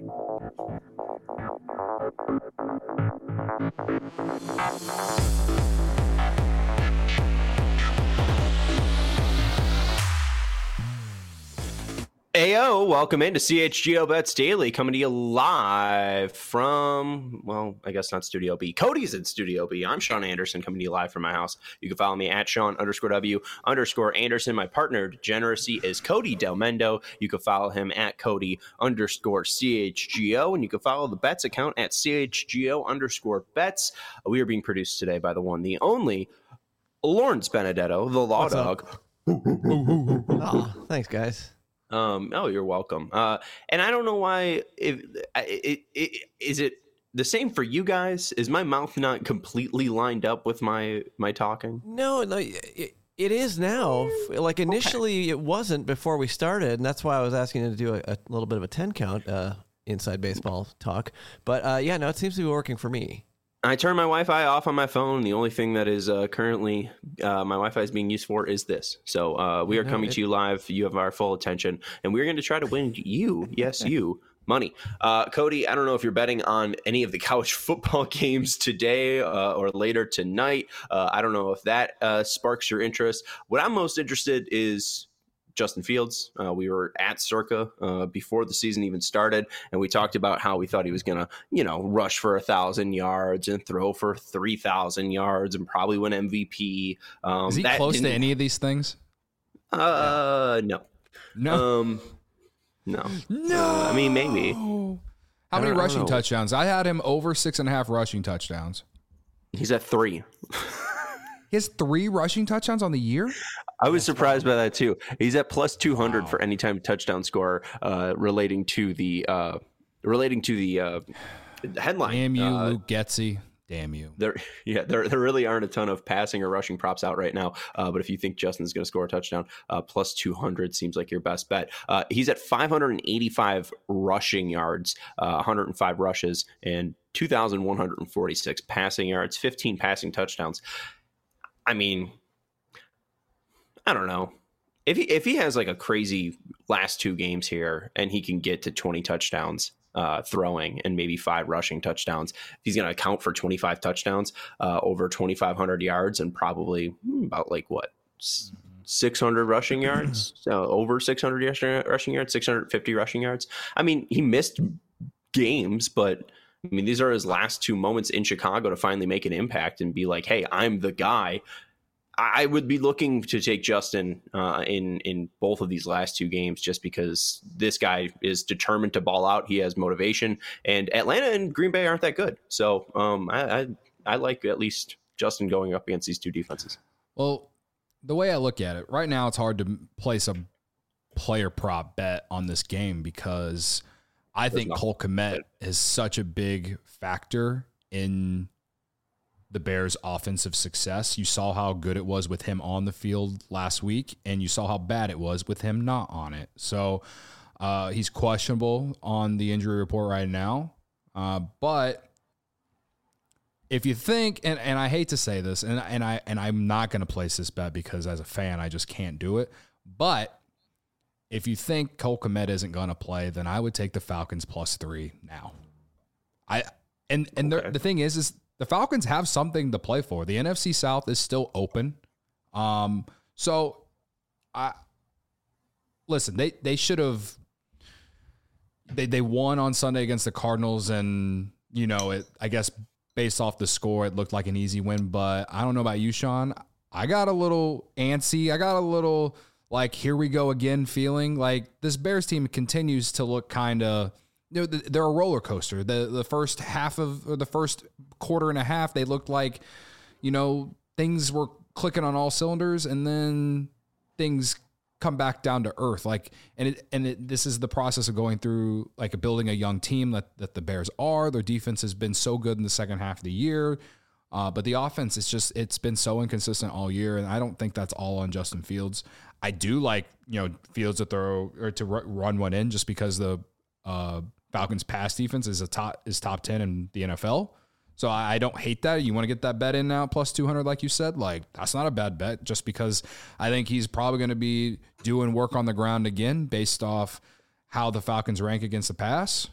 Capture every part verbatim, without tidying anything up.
Ayo, welcome into C H G O Bets Daily, coming to you live from, well, I guess not Studio B. Cody's in Studio B. I'm Sean Anderson, coming to you live from my house. You can follow me at Sean underscore W underscore Anderson. My partner, Degeneracy, is Cody Del Mendo. You can follow him at Cody underscore C H G O, and you can follow the Bets account at C H G O underscore Bets. We are being produced today by the one, the only, Lawrence Benedetto, the Law What's Dog. Oh, thanks, guys. Um, oh, you're welcome. Uh, and I don't know why. If it, it, it is it the same for you guys? Is my mouth not completely lined up with my my talking? No, no, it, it is now. Like initially, okay. It wasn't before we started, and that's why I was asking you to do a, a little bit of a ten count uh, inside baseball talk. But uh, yeah, no, it seems to be working for me. I turned my Wi-Fi off on my phone. The only thing that is uh, currently uh, my Wi-Fi is being used for is this. So uh, we are coming to you live. You have our full attention, and we're going to try to win you, yes, you, money. Uh, Cody, I don't know if you're betting on any of the college football games today uh, or later tonight. Uh, I don't know if that uh, sparks your interest. What I'm most interested is Justin Fields. Uh, we were at Circa uh, before the season even started, and we talked about how we thought he was going to, you know, rush for a thousand yards and throw for three thousand yards and probably win M V P. Um, Is he close to any of these things? Uh, no, no, um, no, no. Uh, I mean, maybe. How many rushing touchdowns? I had him over six and a half rushing touchdowns. He's at three. He has three rushing touchdowns on the year? I was surprised by that too. He's at plus two hundred wow. for any time touchdown scorer uh, relating to the uh, relating to the uh, headline. Damn you, uh, Luke Getsy. Damn you. There, yeah, there, there really aren't a ton of passing or rushing props out right now. Uh, but if you think Justin's going to score a touchdown, uh, plus two hundred seems like your best bet. Uh, he's at five hundred eighty-five rushing yards, uh, one hundred five rushes, and two thousand one hundred forty-six passing yards, fifteen passing touchdowns. I mean, I don't know. If he if he has like a crazy last two games here and he can get to twenty touchdowns uh, throwing and maybe five rushing touchdowns, if he's going to account for twenty-five touchdowns, uh, over twenty-five hundred yards and probably about like what, six hundred rushing yards, so over six hundred rushing yards, six hundred fifty rushing yards. I mean, he missed games, but I mean, these are his last two moments in Chicago to finally make an impact and be like, hey, I'm the guy. I would be looking to take Justin uh, in, in both of these last two games just because this guy is determined to ball out. He has motivation, and Atlanta and Green Bay aren't that good. So um, I, I, I like at least Justin going up against these two defenses. Well, the way I look at it, right now it's hard to place a player prop bet on this game because I There's think Cole Kmet is such a big factor in the Bears' offensive success. You saw how good it was with him on the field last week, and you saw how bad it was with him not on it. So uh, he's questionable on the injury report right now. Uh, but if you think, and, and I hate to say this, and and I and I'm not going to place this bet because as a fan I just can't do it. But if you think Cole Kmet isn't going to play, then I would take the Falcons plus three now. I and and okay. the, the thing is, is the Falcons have something to play for. The N F C South is still open, um. So, I listen. They they should have. They they won on Sunday against the Cardinals, and you know it. I guess based off the score, it looked like an easy win. But I don't know about you, Sean. I got a little antsy. I got a little. Like, here we go again feeling like this Bears team continues to look kind of, you know, they're a roller coaster. The the first half of, or the first quarter and a half, they looked like, you know, things were clicking on all cylinders, and then things come back down to earth. Like, and it, and it, this is the process of going through, like, building a young team that, that the Bears are. Their defense has been so good in the second half of the year. Uh, but the offense, it's just, it's been so inconsistent all year, and I don't think that's all on Justin Fields. I do like, you know, Fields to throw or to run one in just because the uh, Falcons pass defense is a top is top ten in the N F L. So I, I don't hate that. You want to get that bet in now, plus two hundred, like you said, like that's not a bad bet just because I think he's probably going to be doing work on the ground again based off how the Falcons rank against the pass.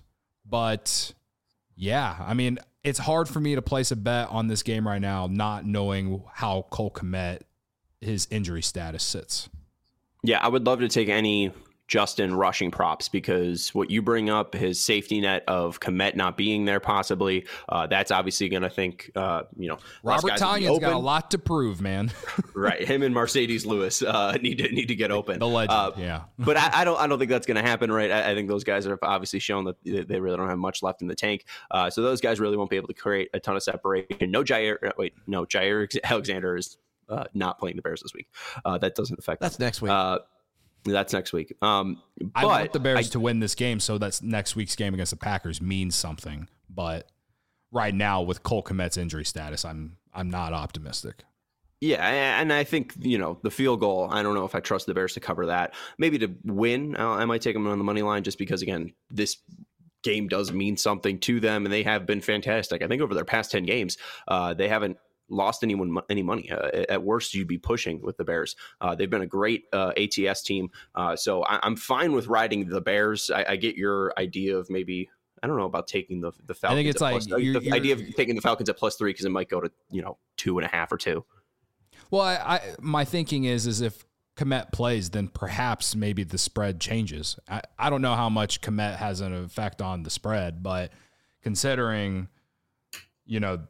But yeah, I mean, it's hard for me to place a bet on this game right now, not knowing how Cole Kmet, his injury status sits. Yeah, I would love to take any Justin rushing props, because what you bring up, his safety net of Kmet not being there possibly, uh, that's obviously going to think, uh, you know, Robert Tonyan's got a lot to prove, man. Right, him and Mercedes Lewis uh, need to need to get open. The legend, uh, yeah. But I, I don't I don't think that's going to happen. Right, I, I think those guys have obviously shown that they really don't have much left in the tank. Uh, so those guys really won't be able to create a ton of separation. No Jair, wait, no Jair Alexander is uh, not playing the Bears this week. Uh, that doesn't affect. That's them. next week. Uh, That's next week. Um, I but want the Bears I, to win this game, so that's next week's game against the Packers means something. But right now, with Cole Kmet's injury status, I'm I'm not optimistic. Yeah, and I think, you know, the field goal, I don't know if I trust the Bears to cover that. Maybe to win, I might take them on the money line, just because, again, this game does mean something to them, and they have been fantastic. I think over their past ten games, uh, they haven't lost anyone any money. Uh, at worst, you'd be pushing with the Bears. Uh, they've been a great uh, A T S team. Uh, so I, I'm fine with riding the Bears. I, I get your idea of maybe, I don't know about taking the, the Falcons. I think it's at like plus, you're, the you're, idea of taking the Falcons at plus three, because it might go to, you know, two and a half or two. Well, I, I my thinking is, is if Kmet plays, then perhaps maybe the spread changes. I, I don't know how much Kmet has an effect on the spread, but considering, you know,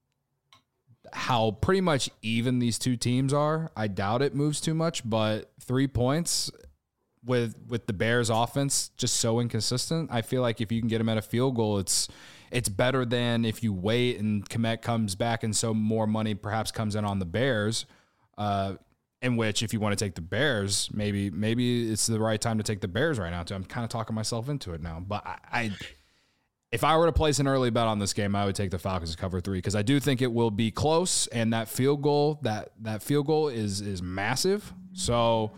how pretty much even these two teams are, I doubt it moves too much. But three points with with the Bears offense just so inconsistent, I feel like if you can get them at a field goal, it's it's better than if you wait and Kmet comes back and so more money perhaps comes in on the Bears. Uh, in which, if you want to take the Bears, maybe maybe it's the right time to take the Bears right now too. I'm kind of talking myself into it now, but I. I If I were to place an early bet on this game, I would take the Falcons to cover three, because I do think it will be close, and that field goal, that that field goal is is massive. So,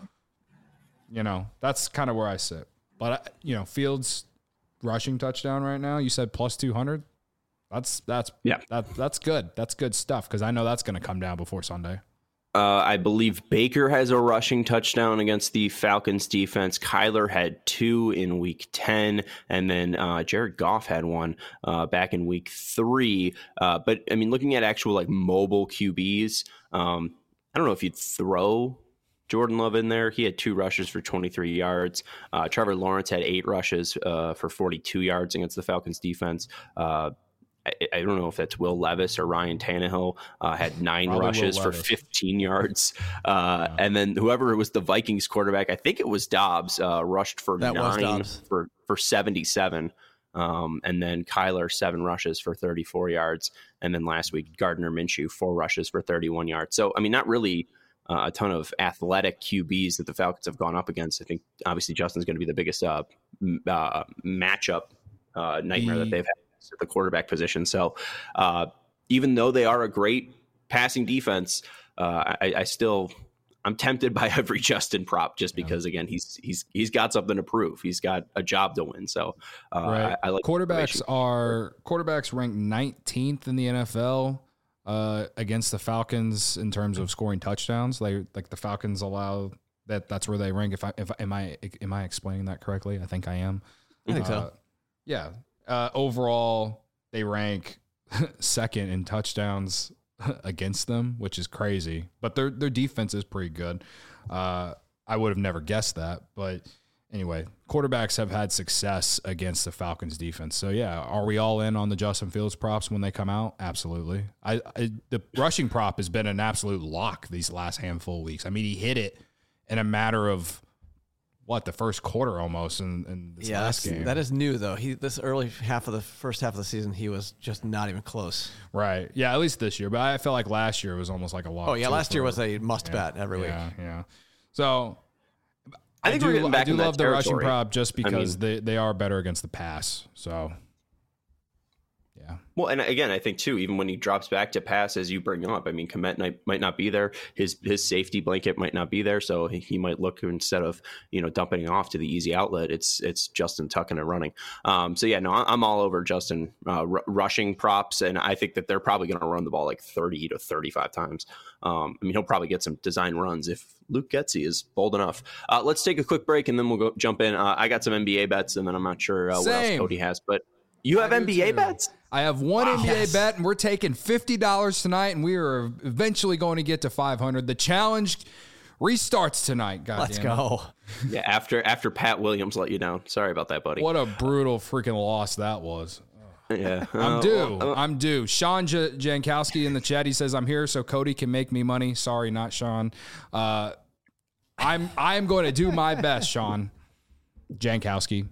you know, that's kind of where I sit. But you know, Fields rushing touchdown right now. You said plus two hundred. That's that's yeah, that that's good. That's good stuff, because I know that's going to come down before Sunday. Uh, I believe Baker has a rushing touchdown against the Falcons defense. Kyler had two in week ten, and then uh, Jared Goff had one uh, back in week three. Uh, but I mean, looking at actual like mobile Q Bs, um, I don't know if you'd throw Jordan Love in there. He had two rushes for twenty-three yards. Uh, Trevor Lawrence had eight rushes uh, for forty-two yards against the Falcons defense. Uh, I, I don't know if that's Will Levis or Ryan Tannehill, uh, had nine Probably rushes for fifteen yards. Uh, yeah. And then whoever was the Vikings quarterback, I think it was Dobbs, uh, rushed for that nine for, for seventy-seven. Um, and then Kyler, seven rushes for thirty-four yards. And then last week, Gardner Minshew, four rushes for thirty-one yards. So, I mean, not really uh, a ton of athletic Q Bs that the Falcons have gone up against. I think obviously Justin's going to be the biggest uh, uh, matchup uh, nightmare the- that they've had at the quarterback position. So uh, even though they are a great passing defense, uh, I, I still I'm tempted by every Justin prop, just because again he's he's he's got something to prove. He's got a job to win. So uh, right. I, I like quarterbacks are quarterbacks ranked nineteenth in the N F L uh, against the Falcons in terms of scoring touchdowns. They like the Falcons allow that. That's where they rank. If I if am I am I explaining that correctly? I think I am. I think uh, so. Yeah. Uh, overall, they rank second in touchdowns against them, which is crazy. But their their defense is pretty good. Uh, I would have never guessed that. But anyway, quarterbacks have had success against the Falcons defense. So, yeah, are we all in on the Justin Fields props when they come out? Absolutely. I, I the rushing prop has been an absolute lock these last handful of weeks. I mean, he hit it in a matter of what, the first quarter almost in, in this yeah, last game. That is new, though. He This early half of the first half of the season, he was just not even close. Right. Yeah, at least this year. But I felt like last year was almost like a lock. Oh, yeah, last for, year was a must-bet yeah, every yeah, week. Yeah, So I think I do, we're getting back I do in love that the rushing territory. prop just because I mean, they, they are better against the pass. So, yeah. Well, and again, I think too, even when he drops back to pass, as you bring up, I mean, Kmet might, might not be there. His his safety blanket might not be there, so he, he might look, instead of you know dumping it off to the easy outlet, it's it's Justin tucking and running. Um, so yeah, no, I'm all over Justin uh, r- rushing props, and I think that they're probably going to run the ball like thirty to thirty-five times. Um, I mean, he'll probably get some design runs if Luke Getsy is bold enough. Uh, let's take a quick break, and then we'll go jump in. Uh, I got some N B A bets, and then I'm not sure uh, what else Cody has, but. You have I N B A too. bets? I have one wow. N B A yes. bet, and we're taking fifty dollars tonight, and we are eventually going to get to five hundred. The challenge restarts tonight. God Let's damn go. It. Yeah, after after Pat Williams let you down. Sorry about that, buddy. What a brutal freaking loss that was. Yeah, I'm uh, due. uh, I'm due. Sean J- Jankowski in the chat. He says, I'm here so Cody can make me money. Sorry, not Sean. Uh, I'm I'm going to do my best, Sean Jankowski.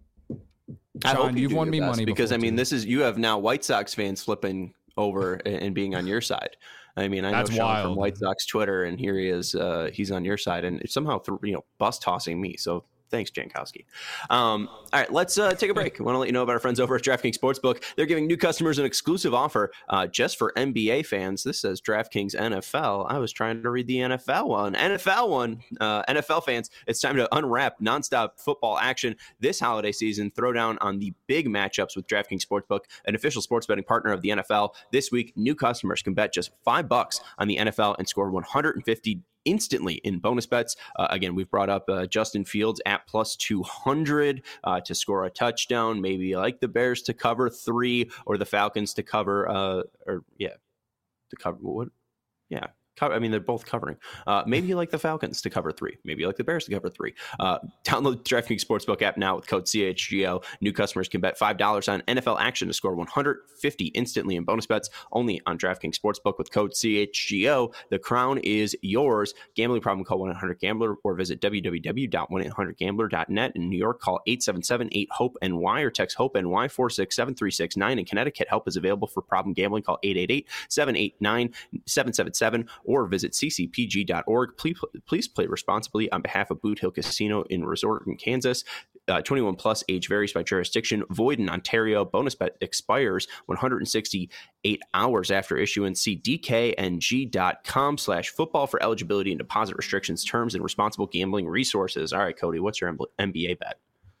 I Sean, hope you you've do won your me best, money because before, I mean, too. this is you have now White Sox fans flipping over and, and being on your side. I mean, I That's know Sean wild. from White Sox Twitter, and here he is. Uh, he's on your side, and somehow th- you know bus tossing me. So. Thanks, Jankowski. Um, all right, let's uh, take a break. I want to let you know about our friends over at DraftKings Sportsbook. They're giving new customers an exclusive offer uh, just for N B A fans. This says DraftKings N F L. I was trying to read the N F L one. N F L one, uh, N F L fans, it's time to unwrap nonstop football action this holiday season. Throw down on the big matchups with DraftKings Sportsbook, an official sports betting partner of the N F L. This week, new customers can bet just five bucks on the N F L and score one hundred fifty instantly in bonus bets. Uh, again, we've brought up uh, Justin Fields at plus two hundred uh, to score a touchdown. Maybe you like the Bears to cover three or the Falcons to cover, uh, or yeah, to cover what? Yeah. I mean, they're both covering. Uh, maybe you like the Falcons to cover three. Maybe you like the Bears to cover three. Uh, download the DraftKings Sportsbook app now with code C H G O. New customers can bet five dollars on N F L action to score one hundred fifty instantly in bonus bets only on DraftKings Sportsbook with code C H G O. The crown is yours. Gambling problem, call one eight hundred gambler or visit w w w dot one eight hundred gambler dot net. In New York, call eight seven seven eight hope N Y or text HOPE-NY four six seven three six nine. In Connecticut, help is available for problem gambling. Call eight eight eight seven eight nine seven seven seven or visit c c p g dot org. Please, please play responsibly on behalf of Boot Hill Casino in Resort in Kansas. Uh, twenty-one plus, age varies by jurisdiction. Void in Ontario. Bonus bet expires one hundred sixty-eight hours after issuance. See d k n g dot com slash football for eligibility and deposit restrictions, terms, and responsible gambling resources. All right, Cody, what's your N B A bet?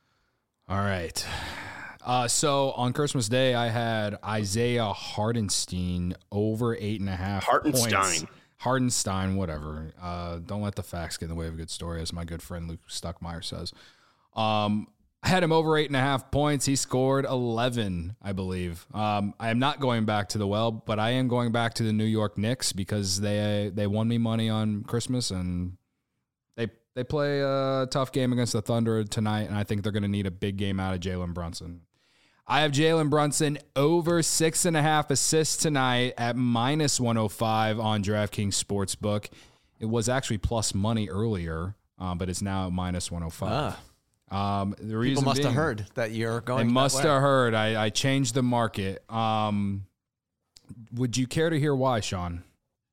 All right. Uh, so on Christmas Day, I had Isaiah Hartenstein over eight and a half Hartenstein. points. Hardenstein, whatever. Uh, don't let the facts get in the way of a good story, as my good friend Luke Stuckmeyer says. Um, I had him over eight and a half points. He scored eleven, I believe. Um, I am not going back to the well, but I am going back to the New York Knicks because they they won me money on Christmas, and they they play a tough game against the Thunder tonight, and I think they're going to need a big game out of Jalen Brunson. I have Jalen Brunson over six and a half assists tonight at minus one oh five on DraftKings Sportsbook. It was actually plus money earlier, um, but it's now at minus one oh five. Ah. Um, the reason People must being, have heard that you're going. They that must way. have heard. I, I changed the market. Um, would you care to hear why, Sean?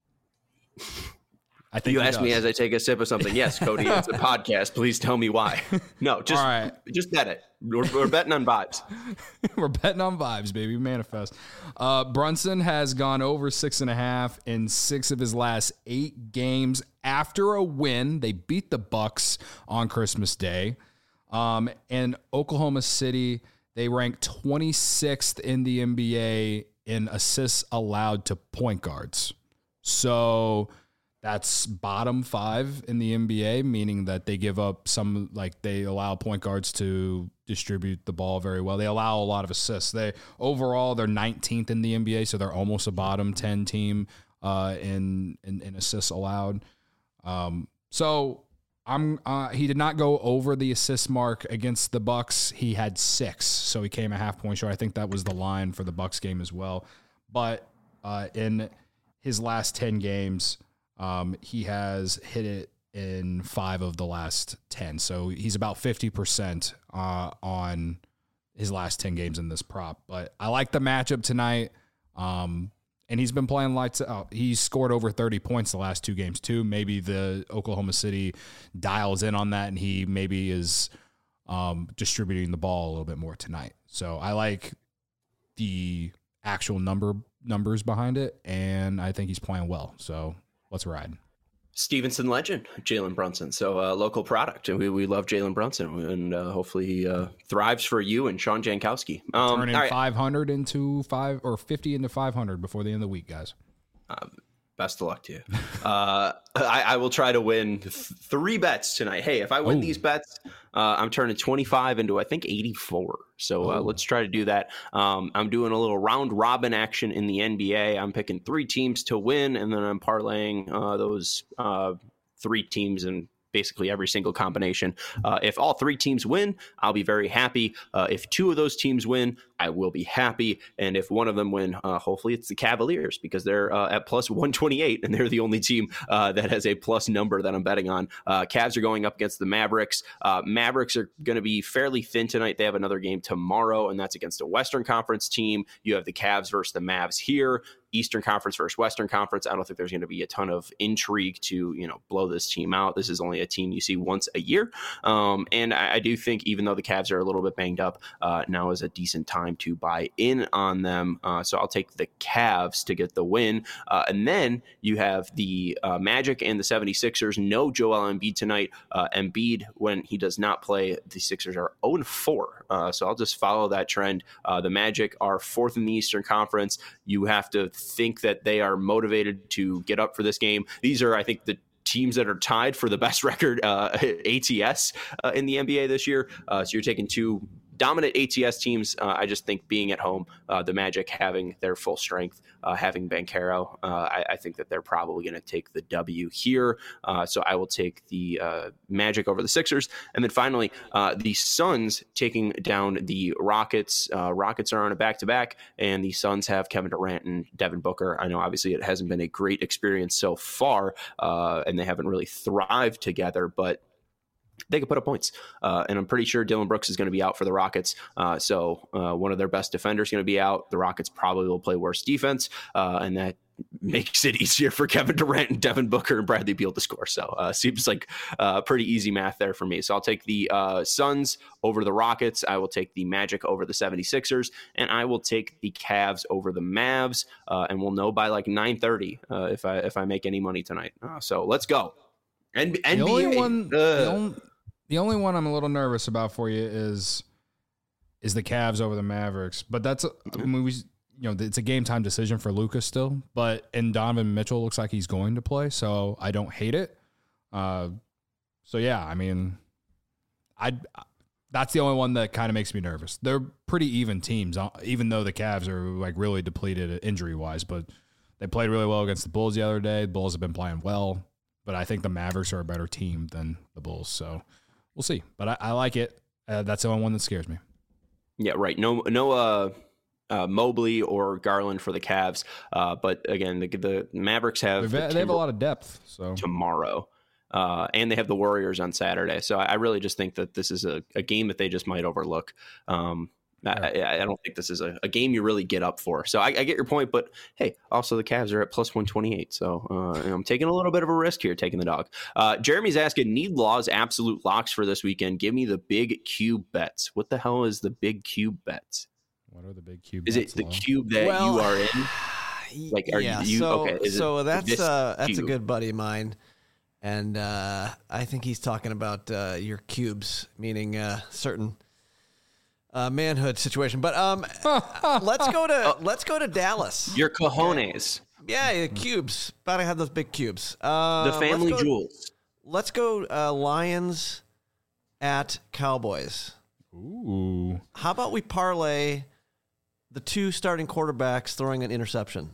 I think you he asked does. me as I take a sip of something. Yes, Cody, it's a podcast. Please tell me why. No, just All right. just bet it. We're, we're betting on vibes. We're betting on vibes, baby. Manifest. Uh, Brunson has gone over six and a half in six of his last eight games after a win. They beat the Bucks on Christmas Day. Um, and Oklahoma City, they rank twenty-sixth in the N B A in assists allowed to point guards. So that's bottom five in the N B A, meaning that they give up some, like they allow point guards to distribute the ball very well. They allow a lot of assists. They overall, they're nineteenth in the N B A, so they're almost a bottom ten team uh, in, in in assists allowed. Um, so I'm uh, he did not go over the assist mark against the Bucks. He had six, so he came a half point short. I think that was the line for the Bucks game as well. But uh, in his last ten games, Um, he has hit it in five of the last ten. So he's about fifty percent uh, on his last ten games in this prop. But I like the matchup tonight. Um, and he's been playing lights out. He's scored over thirty points the last two games too. Maybe the Oklahoma City dials in on that and he maybe is um, distributing the ball a little bit more tonight. So I like the actual number numbers behind it. And I think he's playing well. So let's ride. Stevenson legend, Jalen Brunson. So uh, local product. And we, we love Jalen Brunson. And uh, hopefully he uh, thrives for you and Sean Jankowski. Um, Turning right. five hundred into five or fifty into five hundred before the end of the week, guys. Uh, best of luck to you. uh, I, I will try to win th- three bets tonight. Hey, if I win Ooh. these bets, Uh, I'm turning twenty-five into, I think, eighty-four. So uh, let's try to do that. Um, I'm doing a little round robin action in the N B A. I'm picking three teams to win, and then I'm parlaying uh, those uh, three teams and basically every single combination. Uh, if all three teams win, I'll be very happy. Uh, if two of those teams win, I will be happy. And if one of them win, uh, hopefully it's the Cavaliers, because they're uh, at plus one twenty-eight, and they're the only team uh, that has a plus number that I'm betting on. Uh, Cavs are going up against the Mavericks. Uh, Mavericks are going to be fairly thin tonight. They have another game tomorrow, and that's against a Western Conference team. You have the Cavs versus the Mavs here. Eastern Conference versus Western Conference. I don't think there's going to be a ton of intrigue to, you know, blow this team out. This is only a team you see once a year. Um, and I, I do think, even though the Cavs are a little bit banged up, uh, now is a decent time to buy in on them. Uh, so I'll take the Cavs to get the win. Uh, and then you have the uh, Magic and the seventy-sixers. No Joel Embiid tonight. Uh, Embiid, when he does not play, the Sixers are oh and four. Uh, so I'll just follow that trend. Uh, the Magic are fourth in the Eastern Conference. You have to think that they are motivated to get up for this game. These are, I think, the teams that are tied for the best record uh, A T S uh, in the N B A this year. Uh, so you're taking two dominant A T S teams. Uh, I just think being at home, uh, the Magic having their full strength, uh, having Banchero, uh, I, I think that they're probably going to take the W here. Uh, so I will take the uh, Magic over the Sixers. And then finally, uh, the Suns taking down the Rockets. Uh, Rockets are on a back-to-back, and the Suns have Kevin Durant and Devin Booker. I know obviously it hasn't been a great experience so far, uh, and they haven't really thrived together, but they could put up points. Uh, and I'm pretty sure Dylan Brooks is going to be out for the Rockets. Uh, so uh, one of their best defenders is going to be out. The Rockets probably will play worse defense, uh, and that makes it easier for Kevin Durant and Devin Booker and Bradley Beal to score. So uh, seems like uh, pretty easy math there for me. So I'll take the uh, Suns over the Rockets. I will take the Magic over the seventy-sixers, and I will take the Cavs over the Mavs. Uh, and we'll know by like nine thirty uh, if I if I make any money tonight. Uh, so let's go. And the N B A, only one, uh, the, only, the only one I'm a little nervous about for you is is the Cavs over the Mavericks. But that's a, I mean, we, you know, it's a game time decision for Luka still. But and Donovan Mitchell looks like he's going to play, so I don't hate it. Uh, so yeah, I mean, I that's the only one that kind of makes me nervous. They're pretty even teams, even though the Cavs are like really depleted injury wise. But they played really well against the Bulls the other day. The Bulls have been playing well. But I think the Mavericks are a better team than the Bulls, so we'll see. But I, I like it. Uh, that's the only one that scares me. Yeah, right. No, no, uh, uh, Mobley or Garland for the Cavs. Uh, but again, the, the Mavericks have the they have a lot of depth. So tomorrow, uh, and they have the Warriors on Saturday. So I really just think that this is a, a game that they just might overlook. Um, I, I don't think this is a, a game you really get up for. So I, I get your point, but hey, also the Cavs are at plus one twenty-eight. So uh, I'm taking a little bit of a risk here, taking the dog. Uh, Jeremy's asking, need Law's absolute locks for this weekend. Give me the big cube bets. What the hell is the big cube bets? What are the big cube is bets? Is it the Law? cube that well, you are in? Like, are yeah, you, so, okay, so that's, uh, that's cube? a good buddy of mine. And uh, I think he's talking about uh, your cubes, meaning uh, certain Uh, manhood situation, but um, let's go to oh, let's go to Dallas. Your cojones, yeah, the cubes. About to have those big cubes. Uh, the family let's go, jewels. Let's go uh, Lions at Cowboys. Ooh. How about we parlay the two starting quarterbacks throwing an interception?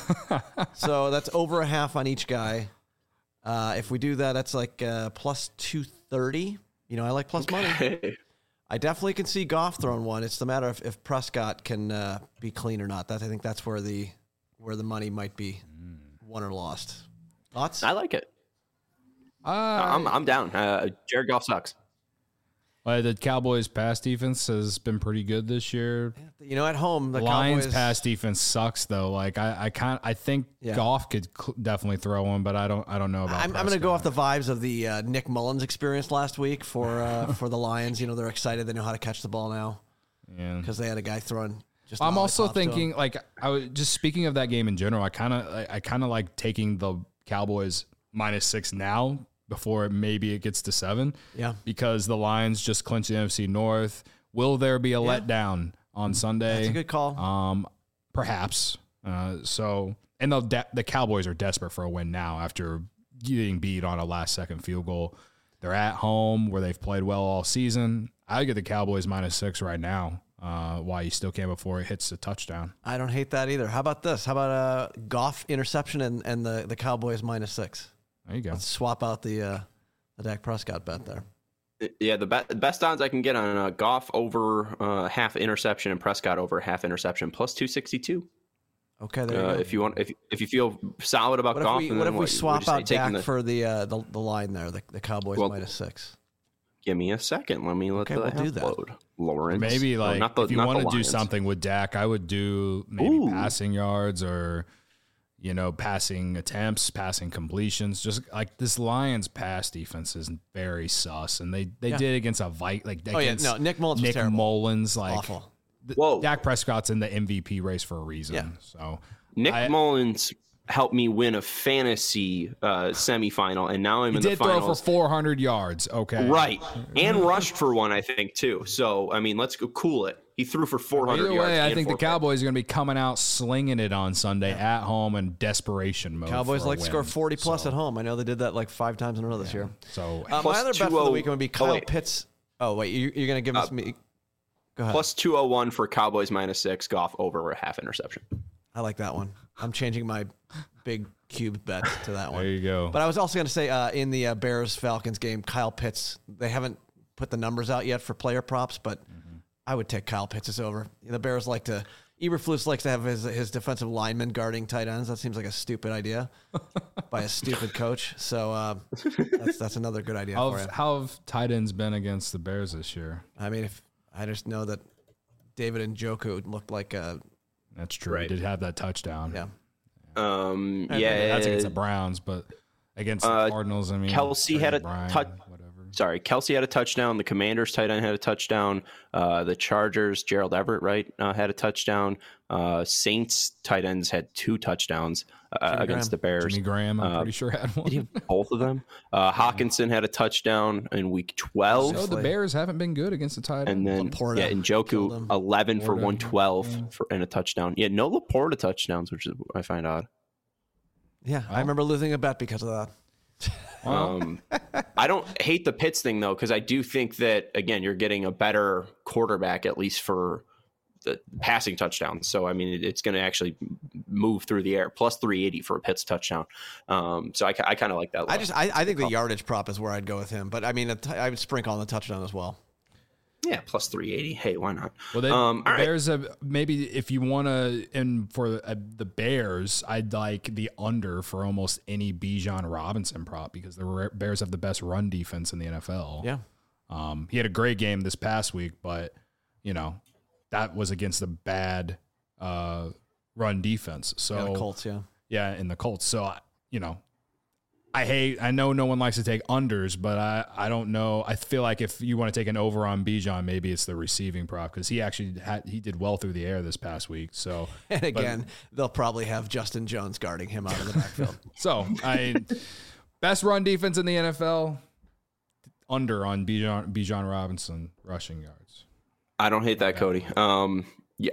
So that's over a half on each guy. Uh, if we do that, that's like uh, plus two thirty. You know, I like plus okay. money. I definitely can see Goff throwing one. It's the matter of if Prescott can uh, be clean or not. That I think that's where the where the money might be won or lost. Thoughts? I like it. Uh, I'm I'm down. Uh, Jared Goff sucks. Uh, the Cowboys' pass defense has been pretty good this year. You know, at home, the Lions' Cowboys... pass defense sucks though. Like I, I can't. I think yeah. Goff could cl- definitely throw one, but I don't. I don't know about. I'm, I'm going to go off the vibes of the uh, Nick Mullins experience last week for uh, for the Lions. You know, they're excited. They know how to catch the ball now. Yeah, because they had a guy throwing. Just I'm also thinking, like, I was just speaking of that game in general. I kind of, I, I kind of like taking the Cowboys minus six now. Before it, maybe it gets to seven. Yeah. Because the Lions just clinched the N F C North. Will there be a yeah. letdown on Sunday? That's a good call. Um, perhaps. Uh, so, and the de- the Cowboys are desperate for a win now after getting beat on a last second field goal. They're at home where they've played well all season. I get the Cowboys minus six right now. Uh, why you still can before it hits the touchdown. I don't hate that either. How about this? How about a Goff interception and, and the, the Cowboys minus six? There you go. Let's swap out the uh, the Dak Prescott bet there. Yeah, the, be- the best odds I can get on uh, Goff over uh, half interception and Prescott over half interception plus two sixty-two. Okay, there you uh, go. If you want, if if you feel solid about what Goff, if we, and what then if we what, swap what out Dak the, for the, uh, the the line there, the, the Cowboys well, minus six? Give me a second. Let me let Okay, the we'll do half that. load. Lawrence. Maybe Oh, like not the, if you not want the to do Lions. something with Dak, I would do maybe Ooh. passing yards or, you know, passing attempts, passing completions. Just like this Lions pass defense is very sus, and they they Yeah. did against a Vite like Oh, yeah, against no, Nick Mullins was Nick terrible. Mullins like Awful. th- Whoa. Dak Prescott's in the M V P race for a reason. Yeah. So Nick I- Mullins helped me win a fantasy uh, semifinal, and now I'm he in the did throw for finals. four hundred yards. Okay, Right, and rushed for one, I think too. So I mean, let's go cool it. He threw for four hundred Either yards. way, I and think the four picks. Cowboys are going to be coming out slinging it on Sunday at home in desperation mode. Cowboys for a like to score win. forty plus So- at home. I know they did that like five times in a row this year. So Uh, my Plus other bet for the two oh weekend would be oh, Kyle wait. Pitts. Oh, wait, you, you're going to give us Uh, me. Go ahead. Plus two oh one for Cowboys minus six. Goff over a half interception. I like that one. I'm changing my big cube bet to that one. there you go. But I was also going to say uh, in the uh, Bears Falcons game, Kyle Pitts. They haven't put the numbers out yet for player props, but Mm-hmm. I would take Kyle Pitts over. The Bears like to. Eberflus likes to have his his defensive linemen guarding tight ends. That seems like a stupid idea by a stupid coach. So uh, that's that's another good idea How for you. have, how have tight ends been against the Bears this year? I mean, if I just know that David Njoku looked like a That's true. Right. He did have that touchdown. yeah. Um, I think yeah, That's against the Browns, but against the Uh, Cardinals, I mean, Kelsey Trey had a Bryant, touch- Whatever. Sorry, Kelsey had a touchdown. The Commanders tight end had a touchdown. Uh, the Chargers, Gerald Everett, right, uh, had a touchdown. Uh, Saints tight ends had two touchdowns uh, Jimmy against Graham. the Bears. Jimmy Graham, I'm Uh, pretty sure had one. Did he have both of them? Uh, Hawkinson had a touchdown in week twelve. So the Bears haven't been good against the tight And end. then Laporta yeah, and killed Njoku him. eleven for Laporta, one twelve yeah. for and a touchdown. Yeah, no Laporta touchdowns, which is I find odd. Yeah, Wow. I remember losing a bet because of that. Um, I don't hate the Pitts thing though, because I do think that again you're getting a better quarterback at least for the passing touchdowns. So I mean it, it's going to actually move through the air. Plus three eighty for a Pitts touchdown. Um, so I, I kind of like that. I look. just I, I think the yardage prop is where I'd go with him, but I mean a t- I would sprinkle on the touchdown as well. yeah plus three eighty. Hey, why not? Well, they, um, the all right. Bears have maybe if you want to, and for uh, the Bears, I'd like the under for almost any Bijan Robinson prop because the Ra- Bears have the best run defense in the N F L. Yeah, Um, he had a great game this past week, but you know that was against the bad uh, run defense. So yeah, the Colts. Yeah, yeah, in the Colts. So I- you know, I hate. I know no one likes to take unders, but I I don't know. I feel like if you want to take an over on Bijan, maybe it's the receiving prop because he actually had he did well through the air this past week. So and again they'll probably have Justin Jones guarding him out of the backfield. so I best run defense in the N F L. Under on Bijan Bijan Robinson rushing yards. I don't hate that, Cody. Um, yeah,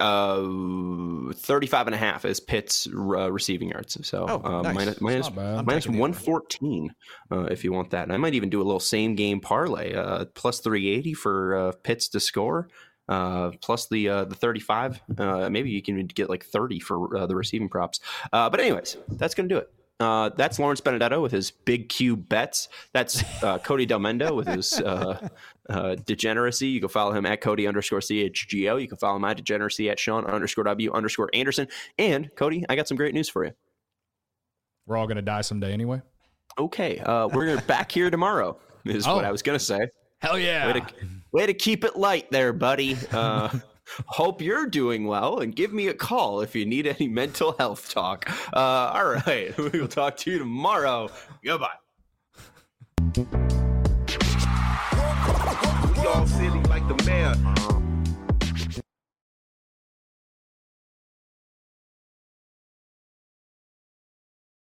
uh, thirty-five and a half is Pitt's uh, receiving yards. So Oh, uh, nice. minus, minus, Not bad. I'm minus taking the one over. fourteen uh, if you want that. And I might even do a little same game parlay, uh, plus three eighty for uh, Pitts to score, uh, plus the uh, the thirty-five. Uh, maybe you can get like thirty for uh, the receiving props. Uh, but anyways, that's going to do it. Uh, that's Lawrence Benedetto with his big Q bets. That's uh, Cody Delmendo with his uh, uh, degeneracy. You can follow him at Cody underscore C H G O. You can follow my degeneracy at Sean underscore W underscore Anderson. And Cody, I got some great news for you. We're all gonna die someday anyway. Okay, uh, we're gonna back here tomorrow. Is Oh. what I was gonna say. Hell yeah! Way to, way to keep it light there, buddy. Uh, hope you're doing well, and give me a call if you need any mental health talk. Uh, all right, we will talk to you tomorrow. Goodbye. We all silly like the mayor.